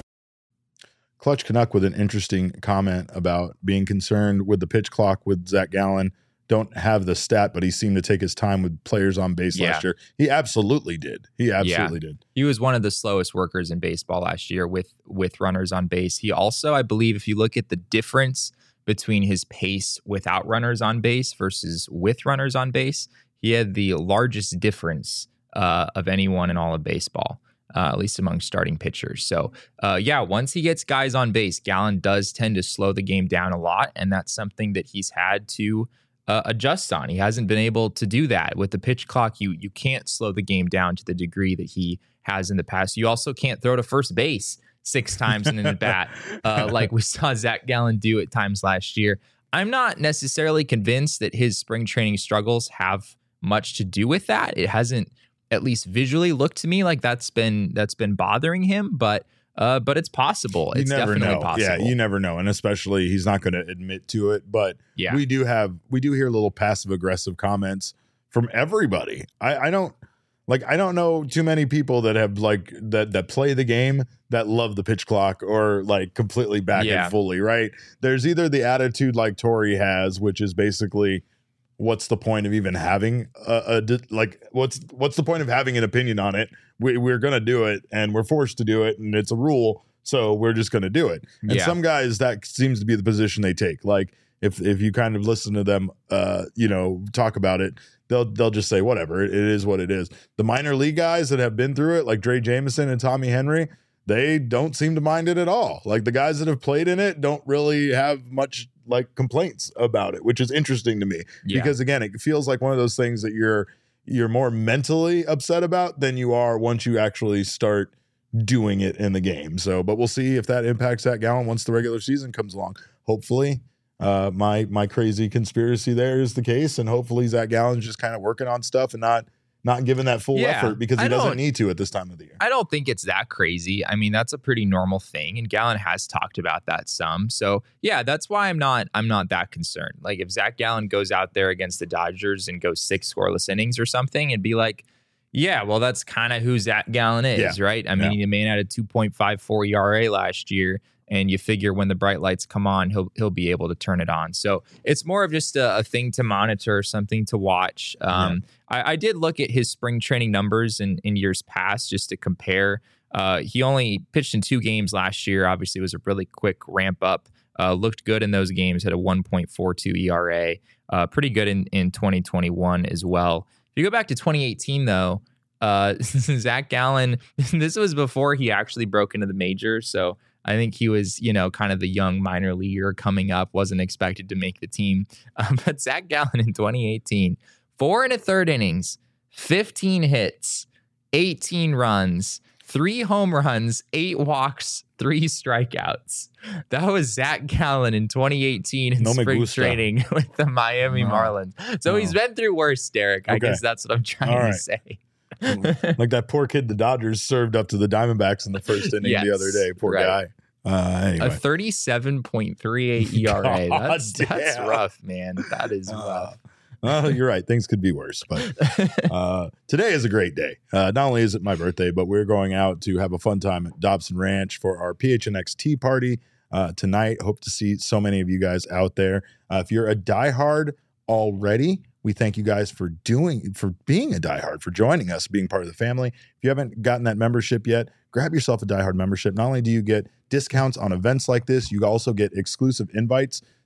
Speaker 2: Clutch Canuck with an interesting comment about being concerned with the pitch clock with Zach Gallen. Don't have the stat, but he seemed to take his time with players on base
Speaker 3: Yeah.
Speaker 2: last year. He absolutely did. He absolutely did.
Speaker 3: He was one of the slowest workers in baseball last year with with runners on base. He also, I believe, if you look at the difference between his pace without runners on base versus with runners on base, he had the largest difference uh, of anyone in all of baseball, uh, at least among starting pitchers. So, uh, yeah, once he gets guys on base, Gallen does tend to slow the game down a lot, and that's something that he's had to uh, adjust on. He hasn't been able to do that. With the pitch clock, you you can't slow the game down to the degree that he has in the past. You also can't throw to first base six times in an at bat, uh, like we saw Zach Gallen do at times last year. I'm not necessarily convinced that his spring training struggles have much to do with that. It hasn't, at least visually, looked to me like that's been that's been bothering him. But uh, but it's possible.
Speaker 2: You
Speaker 3: It's
Speaker 2: never
Speaker 3: definitely
Speaker 2: know.
Speaker 3: possible.
Speaker 2: Yeah, you never know. And especially he's not going to admit to it. But
Speaker 3: Yeah.
Speaker 2: we do have, we do hear little passive aggressive comments from everybody. I, I don't, like, I don't know too many people that have like that that play the game that love the pitch clock or like completely back
Speaker 3: Yeah.
Speaker 2: it fully, right? There's either the attitude like Torey has, which is basically, what's the point of even having a, a di- like what's what's the point of having an opinion on it? We, we're gonna do it, and we're forced to do it, and it's a rule, so we're just gonna do it. And
Speaker 3: Yeah.
Speaker 2: some guys, that seems to be the position they take. Like if if you kind of listen to them, uh, you know, talk about it, they'll they'll just say whatever. It, it is what it is. The minor league guys that have been through it, like Dre Jameson and Tommy Henry, they don't seem to mind it at all. Like the guys that have played in it don't really have much like complaints about it, which is interesting to me.
Speaker 3: Yeah.
Speaker 2: Because again, it feels like one of those things that you're you're more mentally upset about than you are once you actually start doing it in the game. So, but we'll see if that impacts Zach Gallen once the regular season comes along. Hopefully, uh, my my crazy conspiracy there is the case, and hopefully Zach Gallen's just kind of working on stuff and not not giving that full
Speaker 3: Yeah,
Speaker 2: effort because he
Speaker 3: I
Speaker 2: doesn't
Speaker 3: don't-
Speaker 2: need to at this time of the year.
Speaker 3: I don't think it's that crazy. I mean, that's a pretty normal thing, and Gallen has talked about that some. So yeah, that's why I'm not I'm not that concerned. Like if Zach Gallen goes out there against the Dodgers and goes six scoreless innings or something, it'd be like, yeah, well, that's kind of who Zach Gallen is,
Speaker 2: Yeah.
Speaker 3: right? I mean,
Speaker 2: Yeah.
Speaker 3: the man had a two point five four E R A last year, and you figure when the bright lights come on, he'll he'll be able to turn it on. So it's more of just a, a thing to monitor, something to watch. Um, I, I did look at his spring training numbers in, in years past just to compare. Uh, he only pitched in two games last year. Obviously, it was a really quick ramp up. Uh, looked good in those games, had a one point four two E R A. Uh, pretty good in, in twenty twenty-one as well. If you go back to twenty eighteen, though, uh, Zach Gallen, this was before he actually broke into the majors. So I think he was, you know, kind of the young minor leaguer coming up, wasn't expected to make the team. Um, but Zach Gallen in twenty eighteen, four and a third innings, fifteen hits, eighteen runs, three home runs, eight walks, three strikeouts. That was Zach Gallen in twenty eighteen in
Speaker 2: No me
Speaker 3: spring
Speaker 2: gusta.
Speaker 3: training with the Miami
Speaker 2: No.
Speaker 3: Marlins. So
Speaker 2: No.
Speaker 3: he's been through worse, Derek. I
Speaker 2: Okay.
Speaker 3: guess that's what I'm trying
Speaker 2: All
Speaker 3: to
Speaker 2: right.
Speaker 3: say.
Speaker 2: Like that poor kid the Dodgers served up to the Diamondbacks in the first inning
Speaker 3: Yes,
Speaker 2: the other day. Poor
Speaker 3: right.
Speaker 2: guy. Uh, anyway.
Speaker 3: A thirty-seven point three eight E R A.
Speaker 2: God
Speaker 3: That's that's
Speaker 2: damn.
Speaker 3: rough, man. That is
Speaker 2: Uh,
Speaker 3: rough.
Speaker 2: well, you're right. Things could be worse, but uh, today is a great day. Uh, not only is it my birthday, but we're going out to have a fun time at Dobson Ranch for our P H N X tea party uh, tonight. Hope to see so many of you guys out there. Uh, if you're a diehard already, we thank you guys for doing, for being a diehard, for joining us, being part of the family. If you haven't gotten that membership yet, grab yourself a diehard membership. Not only do you get discounts on events like this, you also get exclusive invites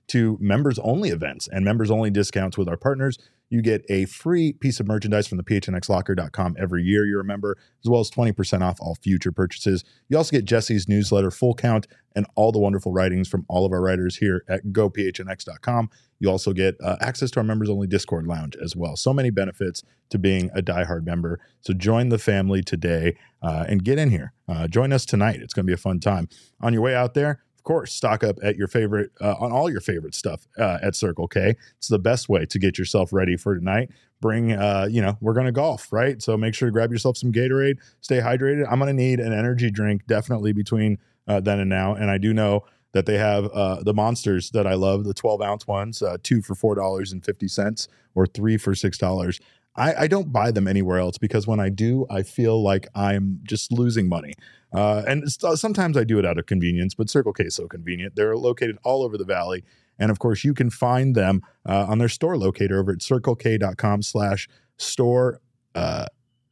Speaker 2: to members-only events and members-only discounts with our partners. You get a free piece of merchandise from the P H N X locker dot com every year you're a member, as well as twenty percent off all future purchases. You also get Jesse's newsletter, Full Count, and all the wonderful writings from all of our writers here at go P H N X dot com. You also get uh, access to our members-only Discord lounge as well. So many benefits to being a diehard member. So join the family today uh, and get in here. Uh, join us tonight. It's going to be a fun time. On your way out there, of course, stock up at your favorite, uh, on all your favorite stuff uh, at Circle K. It's the best way to get yourself ready for tonight. Bring, uh, you know, we're going to golf, right? So make sure to grab yourself some Gatorade, stay hydrated. I'm going to need an energy drink definitely between uh, then and now. And I do know that they have uh, the monsters that I love, the twelve ounce ones, uh, two for four dollars and fifty cents or three for six dollars. I, I don't buy them anywhere else because when I do, I feel like I'm just losing money. Uh, and sometimes I do it out of convenience, but Circle K is so convenient. They're located all over the Valley. And of course, you can find them uh, on their store locator over at circle k dot com slash store uh,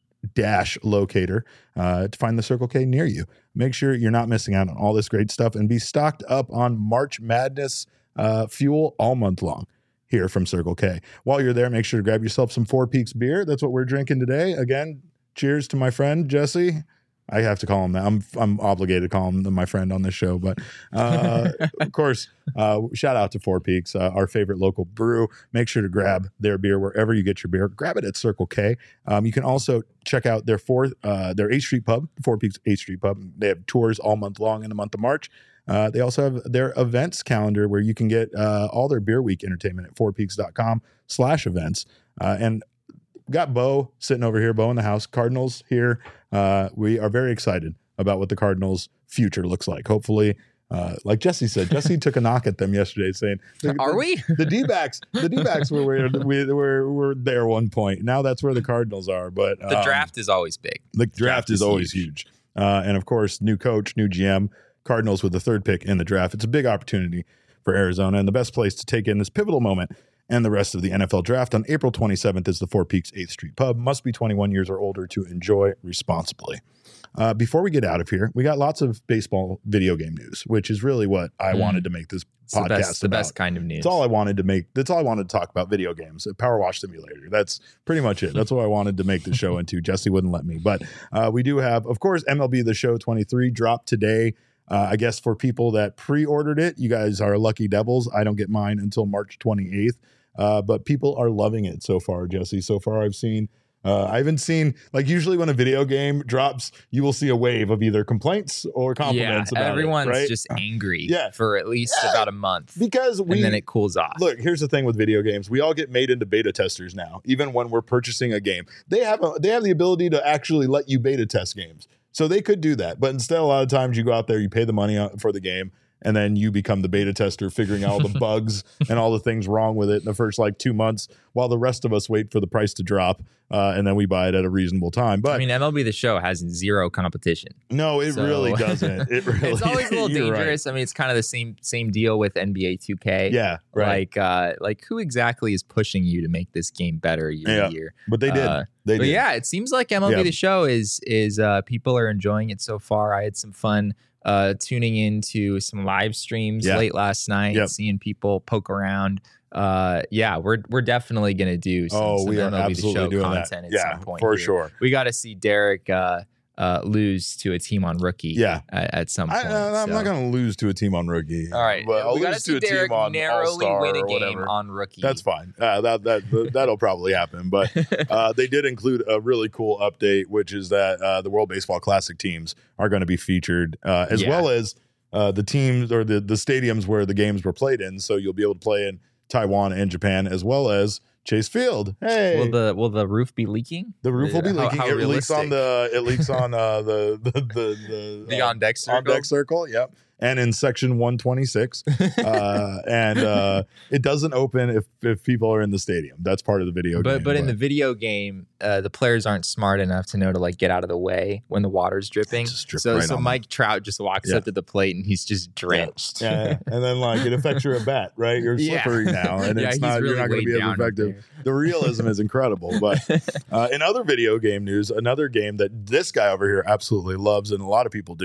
Speaker 2: dash locator uh, to find the Circle K near you. Make sure you're not missing out on all this great stuff and be stocked up on March Madness uh, fuel all month long here from Circle K. While you're there, make sure to grab yourself some Four Peaks beer. That's what we're drinking today. Again, cheers to my friend Jesse. I have to call him that. I'm I'm obligated to call him my friend on this show. But uh, of course, uh, shout out to Four Peaks, uh, our favorite local brew. Make sure to grab their beer wherever you get your beer. Grab it at Circle K. Um, you can also check out their fourth, uh, their eighth Street Pub, Four Peaks eighth Street Pub. They have tours all month long in the month of March. Uh, they also have their events calendar where you can get uh, all their Beer Week entertainment at four peaks dot com slash events. Uh, and got Bo sitting over here, Bo in the house, Cardinals here. Uh, we are very excited about what the Cardinals' future looks like. Hopefully, uh, like Jesse said, Jesse took a knock at them yesterday saying, the,
Speaker 3: Are
Speaker 2: the,
Speaker 3: we?
Speaker 2: The D-backs, the D-backs were, were, we, were, were there one point. Now that's where the Cardinals are. But um,
Speaker 3: The draft is always big.
Speaker 2: The draft, draft is, is always
Speaker 3: huge.
Speaker 2: huge. Uh, and of course, new coach, new G M, Cardinals with the third pick in the draft. It's a big opportunity for Arizona, and the best place to take in this pivotal moment and the rest of the N F L draft on April twenty-seventh is the Four Peaks eighth Street Pub. Must be twenty-one years or older to enjoy responsibly. Uh, before we get out of here, we got lots of baseball video game news, which is really what I mm. wanted to make this
Speaker 3: it's
Speaker 2: podcast
Speaker 3: the best, the
Speaker 2: about.
Speaker 3: best kind of news.
Speaker 2: That's all I wanted to make. That's all I wanted to talk about video games, a Power Wash Simulator. That's pretty much it. That's what I wanted to make the show into. Jesse wouldn't let me. But uh, we do have, of course, M L B The Show twenty-three dropped today. Uh, I guess for people that pre-ordered it, you guys are lucky devils. I don't get mine until March twenty-eighth. Uh, but people are loving it so far, Jesse. So far, I've seen, uh, I haven't seen, like usually when a video game drops, you will see a wave of either complaints or compliments
Speaker 3: yeah,
Speaker 2: about
Speaker 3: everyone's
Speaker 2: it, right?
Speaker 3: just angry
Speaker 2: yeah.
Speaker 3: for at least
Speaker 2: yeah.
Speaker 3: about a month.
Speaker 2: Because we,
Speaker 3: and then it cools off.
Speaker 2: Look, here's the thing with video games. We all get made into beta testers now, even when we're purchasing a game. They have a, they have the ability to actually let you beta test games. So they could do that. But instead, a lot of times you go out there, you pay the money for the game, and then you become the beta tester, figuring out all the bugs and all the things wrong with it in the first like two months, while the rest of us wait for the price to drop, uh, and then we buy it at a reasonable time. But
Speaker 3: I mean, M L B The Show has zero competition.
Speaker 2: No, it
Speaker 3: so,
Speaker 2: really doesn't. It really,
Speaker 3: it's always a little dangerous.
Speaker 2: Right.
Speaker 3: I mean, it's kind of the same same deal with N B A two K.
Speaker 2: Yeah, right.
Speaker 3: Like, uh, like who exactly is pushing you to make this game better year
Speaker 2: yeah,
Speaker 3: to year?
Speaker 2: But they did.
Speaker 3: Uh,
Speaker 2: they
Speaker 3: but
Speaker 2: did.
Speaker 3: yeah, it seems like M L B
Speaker 2: yeah.
Speaker 3: The Show is is uh, people are enjoying it so far. I had some fun. Uh, tuning into some live streams
Speaker 2: yeah.
Speaker 3: late last night,
Speaker 2: yep.
Speaker 3: seeing people poke around. Uh, yeah, we're we're definitely gonna do some,
Speaker 2: oh,
Speaker 3: some
Speaker 2: we are
Speaker 3: M L B
Speaker 2: absolutely
Speaker 3: The Show
Speaker 2: doing
Speaker 3: content
Speaker 2: that.
Speaker 3: at
Speaker 2: yeah,
Speaker 3: some point.
Speaker 2: for
Speaker 3: here.
Speaker 2: sure.
Speaker 3: We got to see Derek uh, uh, lose to a team on rookie.
Speaker 2: Yeah.
Speaker 3: at, at some point.
Speaker 2: I, I'm
Speaker 3: so.
Speaker 2: not gonna lose to a team on rookie.
Speaker 3: All right,
Speaker 2: but I'll
Speaker 3: we got to
Speaker 2: lose
Speaker 3: see
Speaker 2: to a
Speaker 3: Derek
Speaker 2: team on
Speaker 3: narrowly
Speaker 2: All-Star
Speaker 3: win a
Speaker 2: or
Speaker 3: game
Speaker 2: whatever.
Speaker 3: on rookie.
Speaker 2: That's fine. Uh, that that that'll probably happen. But uh, they did include a really cool update, which is that uh, the World Baseball Classic teams are going to be featured, uh, as
Speaker 3: Yeah.
Speaker 2: well as uh, the teams or the the stadiums where the games were played in. So you'll be able to play in Taiwan and Japan, as well as Chase Field. Hey,
Speaker 3: Will the will the roof be leaking?
Speaker 2: the roof will be
Speaker 3: How-
Speaker 2: leaking.
Speaker 3: how
Speaker 2: it leaks
Speaker 3: realistic?
Speaker 2: on the it leaks on uh, the the the the,
Speaker 3: The
Speaker 2: uh,
Speaker 3: on deck circle.
Speaker 2: on deck circle. Yep. And in section one twenty-six, uh, and uh, it doesn't open if, if people are in the stadium. That's part of the video
Speaker 3: But
Speaker 2: game.
Speaker 3: but in the video game, uh, the players aren't smart enough to know to like get out of the way when the water's dripping.
Speaker 2: Just drip
Speaker 3: So
Speaker 2: right
Speaker 3: so
Speaker 2: on
Speaker 3: Mike Trout just walks
Speaker 2: Yeah.
Speaker 3: up to the plate and he's just drenched.
Speaker 2: yeah, yeah. And then like it affects your at bat, right? You're
Speaker 3: Yeah.
Speaker 2: slippery now, and
Speaker 3: Yeah,
Speaker 2: it's
Speaker 3: he's
Speaker 2: not
Speaker 3: really
Speaker 2: you're not going to
Speaker 3: weighed
Speaker 2: be as
Speaker 3: down
Speaker 2: effective.
Speaker 3: there.
Speaker 2: The realism is incredible. But uh, in other video game news, another game that this guy over here absolutely loves, and a lot of people do.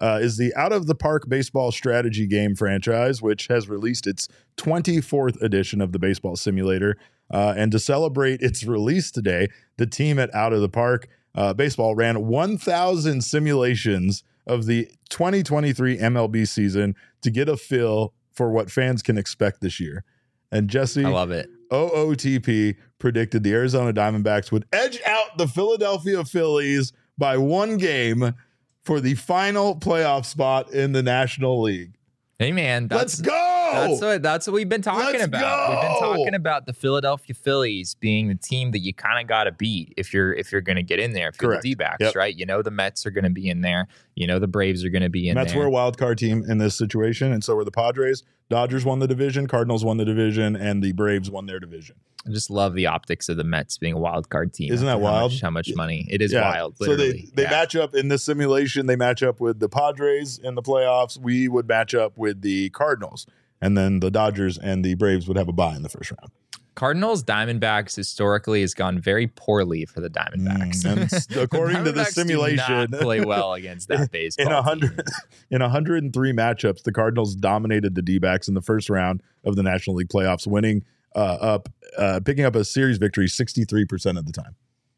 Speaker 2: uh, is the Out of the Park baseball strategy game franchise, which has released its twenty-fourth edition of the baseball simulator. Uh, and to celebrate its release today, the team at Out of the Park uh, Baseball ran one thousand simulations of the twenty twenty-three M L B season to get a feel for what fans can expect this year. And Jesse,
Speaker 3: I love it.
Speaker 2: O O T P predicted the Arizona Diamondbacks would edge out the Philadelphia Phillies by one game for the final playoff spot in the National League.
Speaker 3: Hey, man. That's,
Speaker 2: Let's go.
Speaker 3: That's what, that's what we've been talking
Speaker 2: Let's
Speaker 3: about.
Speaker 2: go.
Speaker 3: We've been talking about the Philadelphia Phillies being the team that you kind of got to beat if you're if you're going to get in there. If you're
Speaker 2: Correct.
Speaker 3: the D-backs,
Speaker 2: Yep.
Speaker 3: right? You know the Mets are going to be in there. You know the Braves are going to be in
Speaker 2: Mets
Speaker 3: there.
Speaker 2: were a wild card team in this situation, and so were the Padres. Dodgers won the division, Cardinals won the division, and the Braves won their division.
Speaker 3: I just love the optics of the Mets being a wild card team.
Speaker 2: Isn't that
Speaker 3: after how
Speaker 2: wild?
Speaker 3: much- How much, money? It is
Speaker 2: Yeah.
Speaker 3: wild.
Speaker 2: So they,
Speaker 3: Literally.
Speaker 2: they
Speaker 3: Yeah.
Speaker 2: match up in this simulation. They match up with the Padres in the playoffs. We would match up with the Cardinals, and then the Dodgers and the Braves would have a bye in the first round.
Speaker 3: Cardinals Diamondbacks historically has gone very poorly for the Diamondbacks.
Speaker 2: Mm, and s- according to the
Speaker 3: Diamondbacks do
Speaker 2: simulation,
Speaker 3: not play well against that baseball.
Speaker 2: in a
Speaker 3: team.
Speaker 2: hundred in one hundred three matchups, the Cardinals dominated the D-backs in the first round of the National League playoffs, winning uh, up, uh, picking up a series victory sixty-three percent of the time.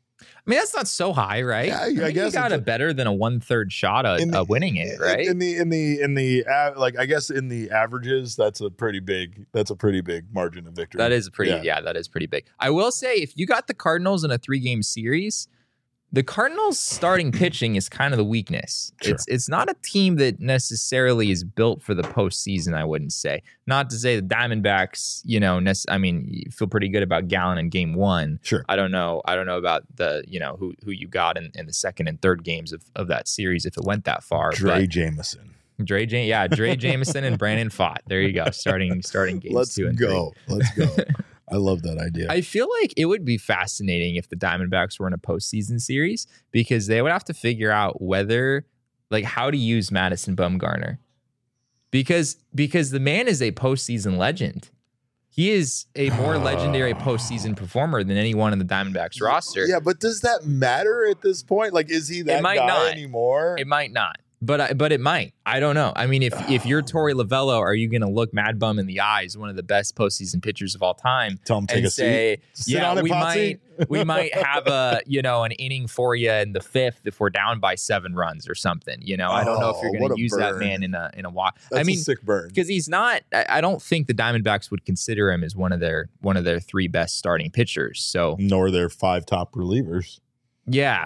Speaker 3: I mean, that's not so high, right?
Speaker 2: Yeah, I
Speaker 3: I, think
Speaker 2: guess
Speaker 3: you got
Speaker 2: it's
Speaker 3: a better than a one third shot at
Speaker 2: In the-
Speaker 3: uh, winning it, right?
Speaker 2: In the in the in the uh, like, I guess in the averages, that's a pretty big that's a pretty big margin of victory.
Speaker 3: That is pretty,
Speaker 2: Yeah.
Speaker 3: yeah. that is pretty big. I will say, if you got the Cardinals in a three game series, the Cardinals starting pitching is kind of the weakness.
Speaker 2: Sure.
Speaker 3: It's it's not a team that necessarily is built for the postseason, I wouldn't say. Not to say the Diamondbacks, you know, nec- I mean, you feel pretty good about Gallen in game one.
Speaker 2: Sure.
Speaker 3: I don't know. I don't know about the, you know, who who you got in, in the second and third games of, of that series if it went that far.
Speaker 2: Dre
Speaker 3: but
Speaker 2: Jameson.
Speaker 3: Dre, Jam- yeah, Dre Jameson and Brandon Fott. There you go. Starting starting games
Speaker 2: Let's
Speaker 3: two and
Speaker 2: go. Let's go. I love that idea.
Speaker 3: I feel like it would be fascinating if the Diamondbacks were in a postseason series because they would have to figure out whether, like, how to use Madison Bumgarner, because because the man is a postseason legend. He is a more legendary postseason performer than anyone in the Diamondbacks roster.
Speaker 2: Yeah, but does that matter at this point? Like, is he that
Speaker 3: might
Speaker 2: guy
Speaker 3: not.
Speaker 2: anymore?
Speaker 3: It might not, but I, but it might. I don't know. I mean, if if you're Torey Lovello, are you going to look Mad Bum in the eyes, one of the best postseason pitchers of all time,
Speaker 2: Tell him take
Speaker 3: and
Speaker 2: a
Speaker 3: say,
Speaker 2: seat. Sit
Speaker 3: yeah,
Speaker 2: on it,
Speaker 3: we
Speaker 2: Potsy.
Speaker 3: might we might have a you know an inning for you in the fifth if we're down by seven runs or something. You know, I don't know if you're
Speaker 2: Oh,
Speaker 3: going
Speaker 2: what
Speaker 3: to
Speaker 2: a
Speaker 3: use that
Speaker 2: burn.
Speaker 3: man in a in a walk.
Speaker 2: That's
Speaker 3: I mean,
Speaker 2: a sick burn.
Speaker 3: because he's not. I, I don't think the Diamondbacks would consider him as one of their one of their three best starting pitchers. So
Speaker 2: Nor their five top relievers.
Speaker 3: yeah.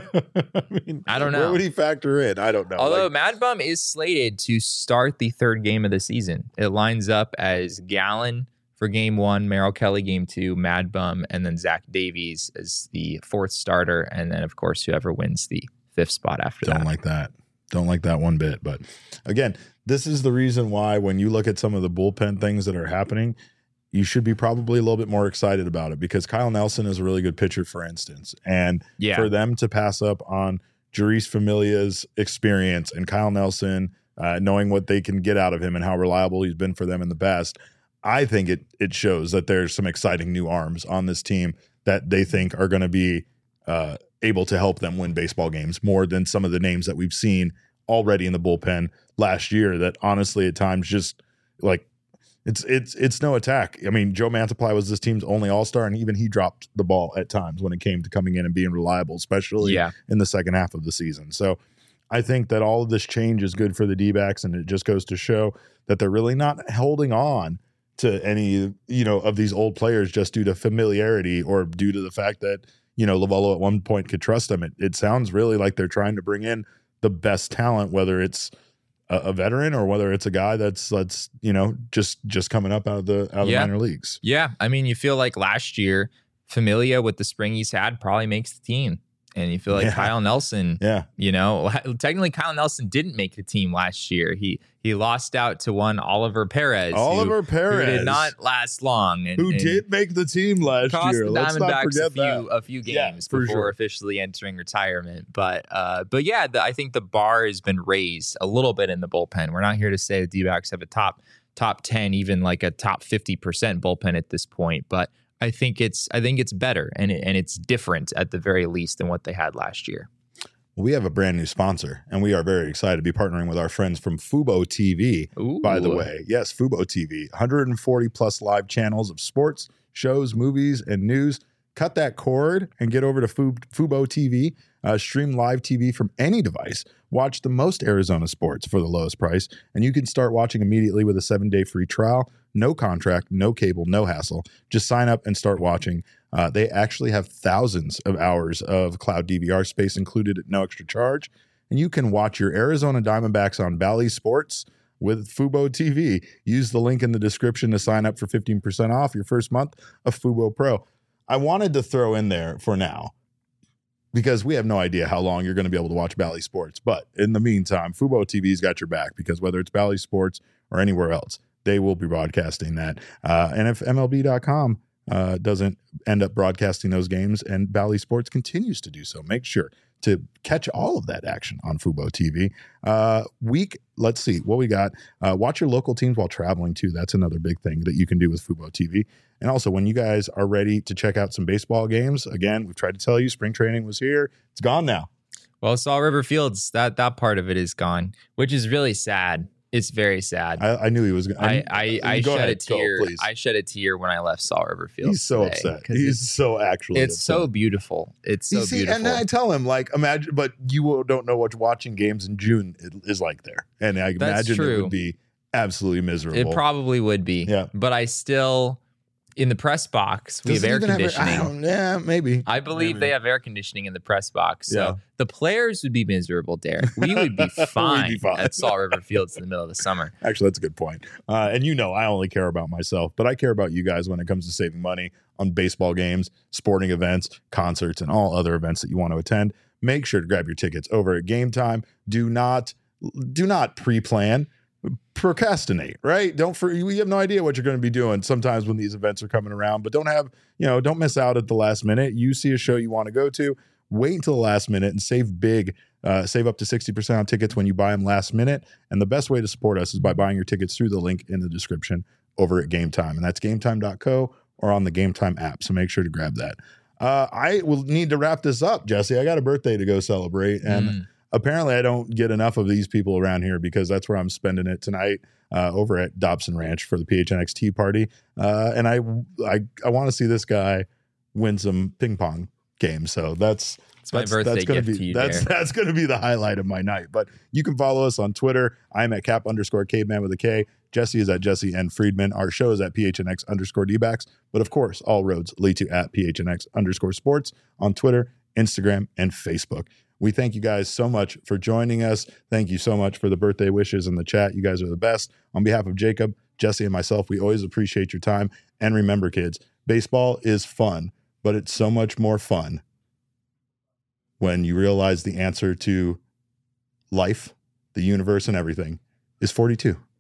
Speaker 2: I mean,
Speaker 3: I don't know.
Speaker 2: Where would he factor in? I don't know.
Speaker 3: Although
Speaker 2: Like,
Speaker 3: Mad Bum is slated to start the third game of the season. It lines up as Gallen for game one, Merrill Kelly game two, Mad Bum, and then Zach Davies as the fourth starter. And then, of course, whoever wins the fifth spot after
Speaker 2: don't
Speaker 3: that.
Speaker 2: like that. Don't like that one bit. But again, this is the reason why when you look at some of the bullpen things that are happening, you should be probably a little bit more excited about it because Kyle Nelson is a really good pitcher, for instance. And
Speaker 3: Yeah.
Speaker 2: for them to pass up on Jeurys Familia's experience and Kyle Nelson, uh, knowing what they can get out of him and how reliable he's been for them in the past, I think it it shows that there's some exciting new arms on this team that they think are going to be uh, able to help them win baseball games more than some of the names that we've seen already in the bullpen last year that honestly at times just like it's it's it's no attack. I mean, Joe Mantiply was this team's only all-star, and even he dropped the ball at times when it came to coming in and being reliable, especially
Speaker 3: Yeah.
Speaker 2: in the second half of the season. So I think that all of this change is good for the D-backs, and it just goes to show that they're really not holding on to any, you know, of these old players just due to familiarity or due to the fact that, you know, Lovello at one point could trust them. It, it sounds really like they're trying to bring in the best talent, whether it's a, a veteran or whether it's a guy that's, that's, you know, just, just coming up out of the, out of
Speaker 3: Yeah.
Speaker 2: the minor leagues.
Speaker 3: Yeah. I mean, you feel like last year, Familia with the spring he's had probably makes the team. And you feel like
Speaker 2: Yeah.
Speaker 3: Kyle Nelson,
Speaker 2: Yeah.
Speaker 3: you know, technically Kyle Nelson didn't make the team last year. He he lost out to one Oliver Perez. who-
Speaker 2: Oliver
Speaker 3: who
Speaker 2: Perez.
Speaker 3: did not last long. And,
Speaker 2: who
Speaker 3: and
Speaker 2: did make the team last
Speaker 3: cost
Speaker 2: year.
Speaker 3: the
Speaker 2: Let's not
Speaker 3: Diamondbacks a
Speaker 2: forget
Speaker 3: few
Speaker 2: that.
Speaker 3: a few
Speaker 2: Yeah,
Speaker 3: games
Speaker 2: for
Speaker 3: before
Speaker 2: sure.
Speaker 3: officially entering retirement. But uh, but yeah, the, I think the bar has been raised a little bit in the bullpen. We're not here to say the D-backs have a top top ten, even like a top fifty percent bullpen at this point, but I think it's I think it's better and it, and it's different at the very least than what they had last year.
Speaker 2: We have a brand new sponsor, and we are very excited to be partnering with our friends from Fubo T V.
Speaker 3: Ooh.
Speaker 2: By the way, yes, Fubo T V, one hundred forty plus live channels of sports, shows, movies, and news. Cut that cord and get over to Fubo T V. Uh, stream live T V from any device. Watch the most Arizona sports for the lowest price, and you can start watching immediately with a seven-day free trial. No contract, no cable, no hassle. Just sign up and start watching. Uh, they actually have thousands of hours of cloud D V R space included at no extra charge, and you can watch your Arizona Diamondbacks on Bally Sports with Fubo T V. Use the link in the description to sign up for fifteen percent off your first month of Fubo Pro. I wanted to throw in there for now, because we have no idea how long you're going to be able to watch Bally Sports. But in the meantime, Fubo T V's got your back, because whether it's Bally Sports or anywhere else, they will be broadcasting that. Uh, and if M L B dot com uh, doesn't end up broadcasting those games and Bally Sports continues to do so, make sure to catch all of that action on Fubo T V. Uh, week, let's see what we got. Uh, watch your local teams while traveling too. That's another big thing that you can do with Fubo T V. And also, when you guys are ready to check out some baseball games, again, we've tried to tell you, spring training was here. It's gone now.
Speaker 3: Well, Saw River Fields, that that part of it is gone, which is really sad. It's very sad.
Speaker 2: I, I knew he was going.
Speaker 3: I I, I shed
Speaker 2: ahead,
Speaker 3: a tear.
Speaker 2: go,
Speaker 3: I shed a tear when I left Saw River Fields.
Speaker 2: He's so
Speaker 3: today,
Speaker 2: upset. He's so actually.
Speaker 3: It's
Speaker 2: upset.
Speaker 3: so beautiful. It's so
Speaker 2: you see,
Speaker 3: beautiful.
Speaker 2: and I tell him, like, imagine, but you don't know what watching games in June is like there, and I
Speaker 3: That's
Speaker 2: imagine
Speaker 3: true.
Speaker 2: it would be absolutely miserable.
Speaker 3: It probably would be.
Speaker 2: Yeah.
Speaker 3: But I still, in the press box, we
Speaker 2: Does
Speaker 3: have
Speaker 2: it
Speaker 3: air
Speaker 2: even have air-
Speaker 3: conditioning.
Speaker 2: I don't, yeah, maybe.
Speaker 3: I believe
Speaker 2: Maybe.
Speaker 3: they have air conditioning in the press box. So
Speaker 2: Yeah.
Speaker 3: the players would be miserable, Derek. We would be fine,
Speaker 2: fine.
Speaker 3: at Saw River Fields in the middle of the summer.
Speaker 2: Actually, that's a good point. Uh, and you know, I only care about myself, but I care about you guys when it comes to saving money on baseball games, sporting events, concerts, and all other events that you want to attend. Make sure to grab your tickets over at Game Time. Do not, do not pre-plan. Procrastinate, right? Don't for you have no idea what you're going to be doing sometimes when these events are coming around, but don't have, you know, don't miss out at the last minute. You see a show you want to go to, wait until the last minute and save big, uh, save up to sixty percent on tickets when you buy them last minute. And the best way to support us is by buying your tickets through the link in the description over at Game Time. And that's game time dot co or on the Game Time app. So make sure to grab that. Uh, I will need to wrap this up, Jesse. I got a birthday to go celebrate. And
Speaker 3: Mm.
Speaker 2: apparently I don't get enough of these people around here, because that's where I'm spending it tonight uh, over at Dobson Ranch for the P H N X Tea Party. Uh, and I I, I want to see this guy win some ping pong games. So that's
Speaker 3: It's my
Speaker 2: that's,
Speaker 3: birthday
Speaker 2: that's gonna
Speaker 3: gift
Speaker 2: be,
Speaker 3: to you,
Speaker 2: That's
Speaker 3: Derek.
Speaker 2: that's going to be the highlight of my night. But you can follow us on Twitter. I'm at cap underscore caveman with a K. Jesse is at Jesse N. Friedman. Our show is at P H N X underscore D-backs. But of course, all roads lead to at P H N X underscore sports on Twitter, Instagram, and Facebook. We thank you guys so much for joining us. Thank you so much for the birthday wishes in the chat. You guys are the best. On behalf of Jacob, Jesse, and myself, we always appreciate your time. And remember, kids, baseball is fun, but it's so much more fun when you realize the answer to life, the universe, and everything is forty-two.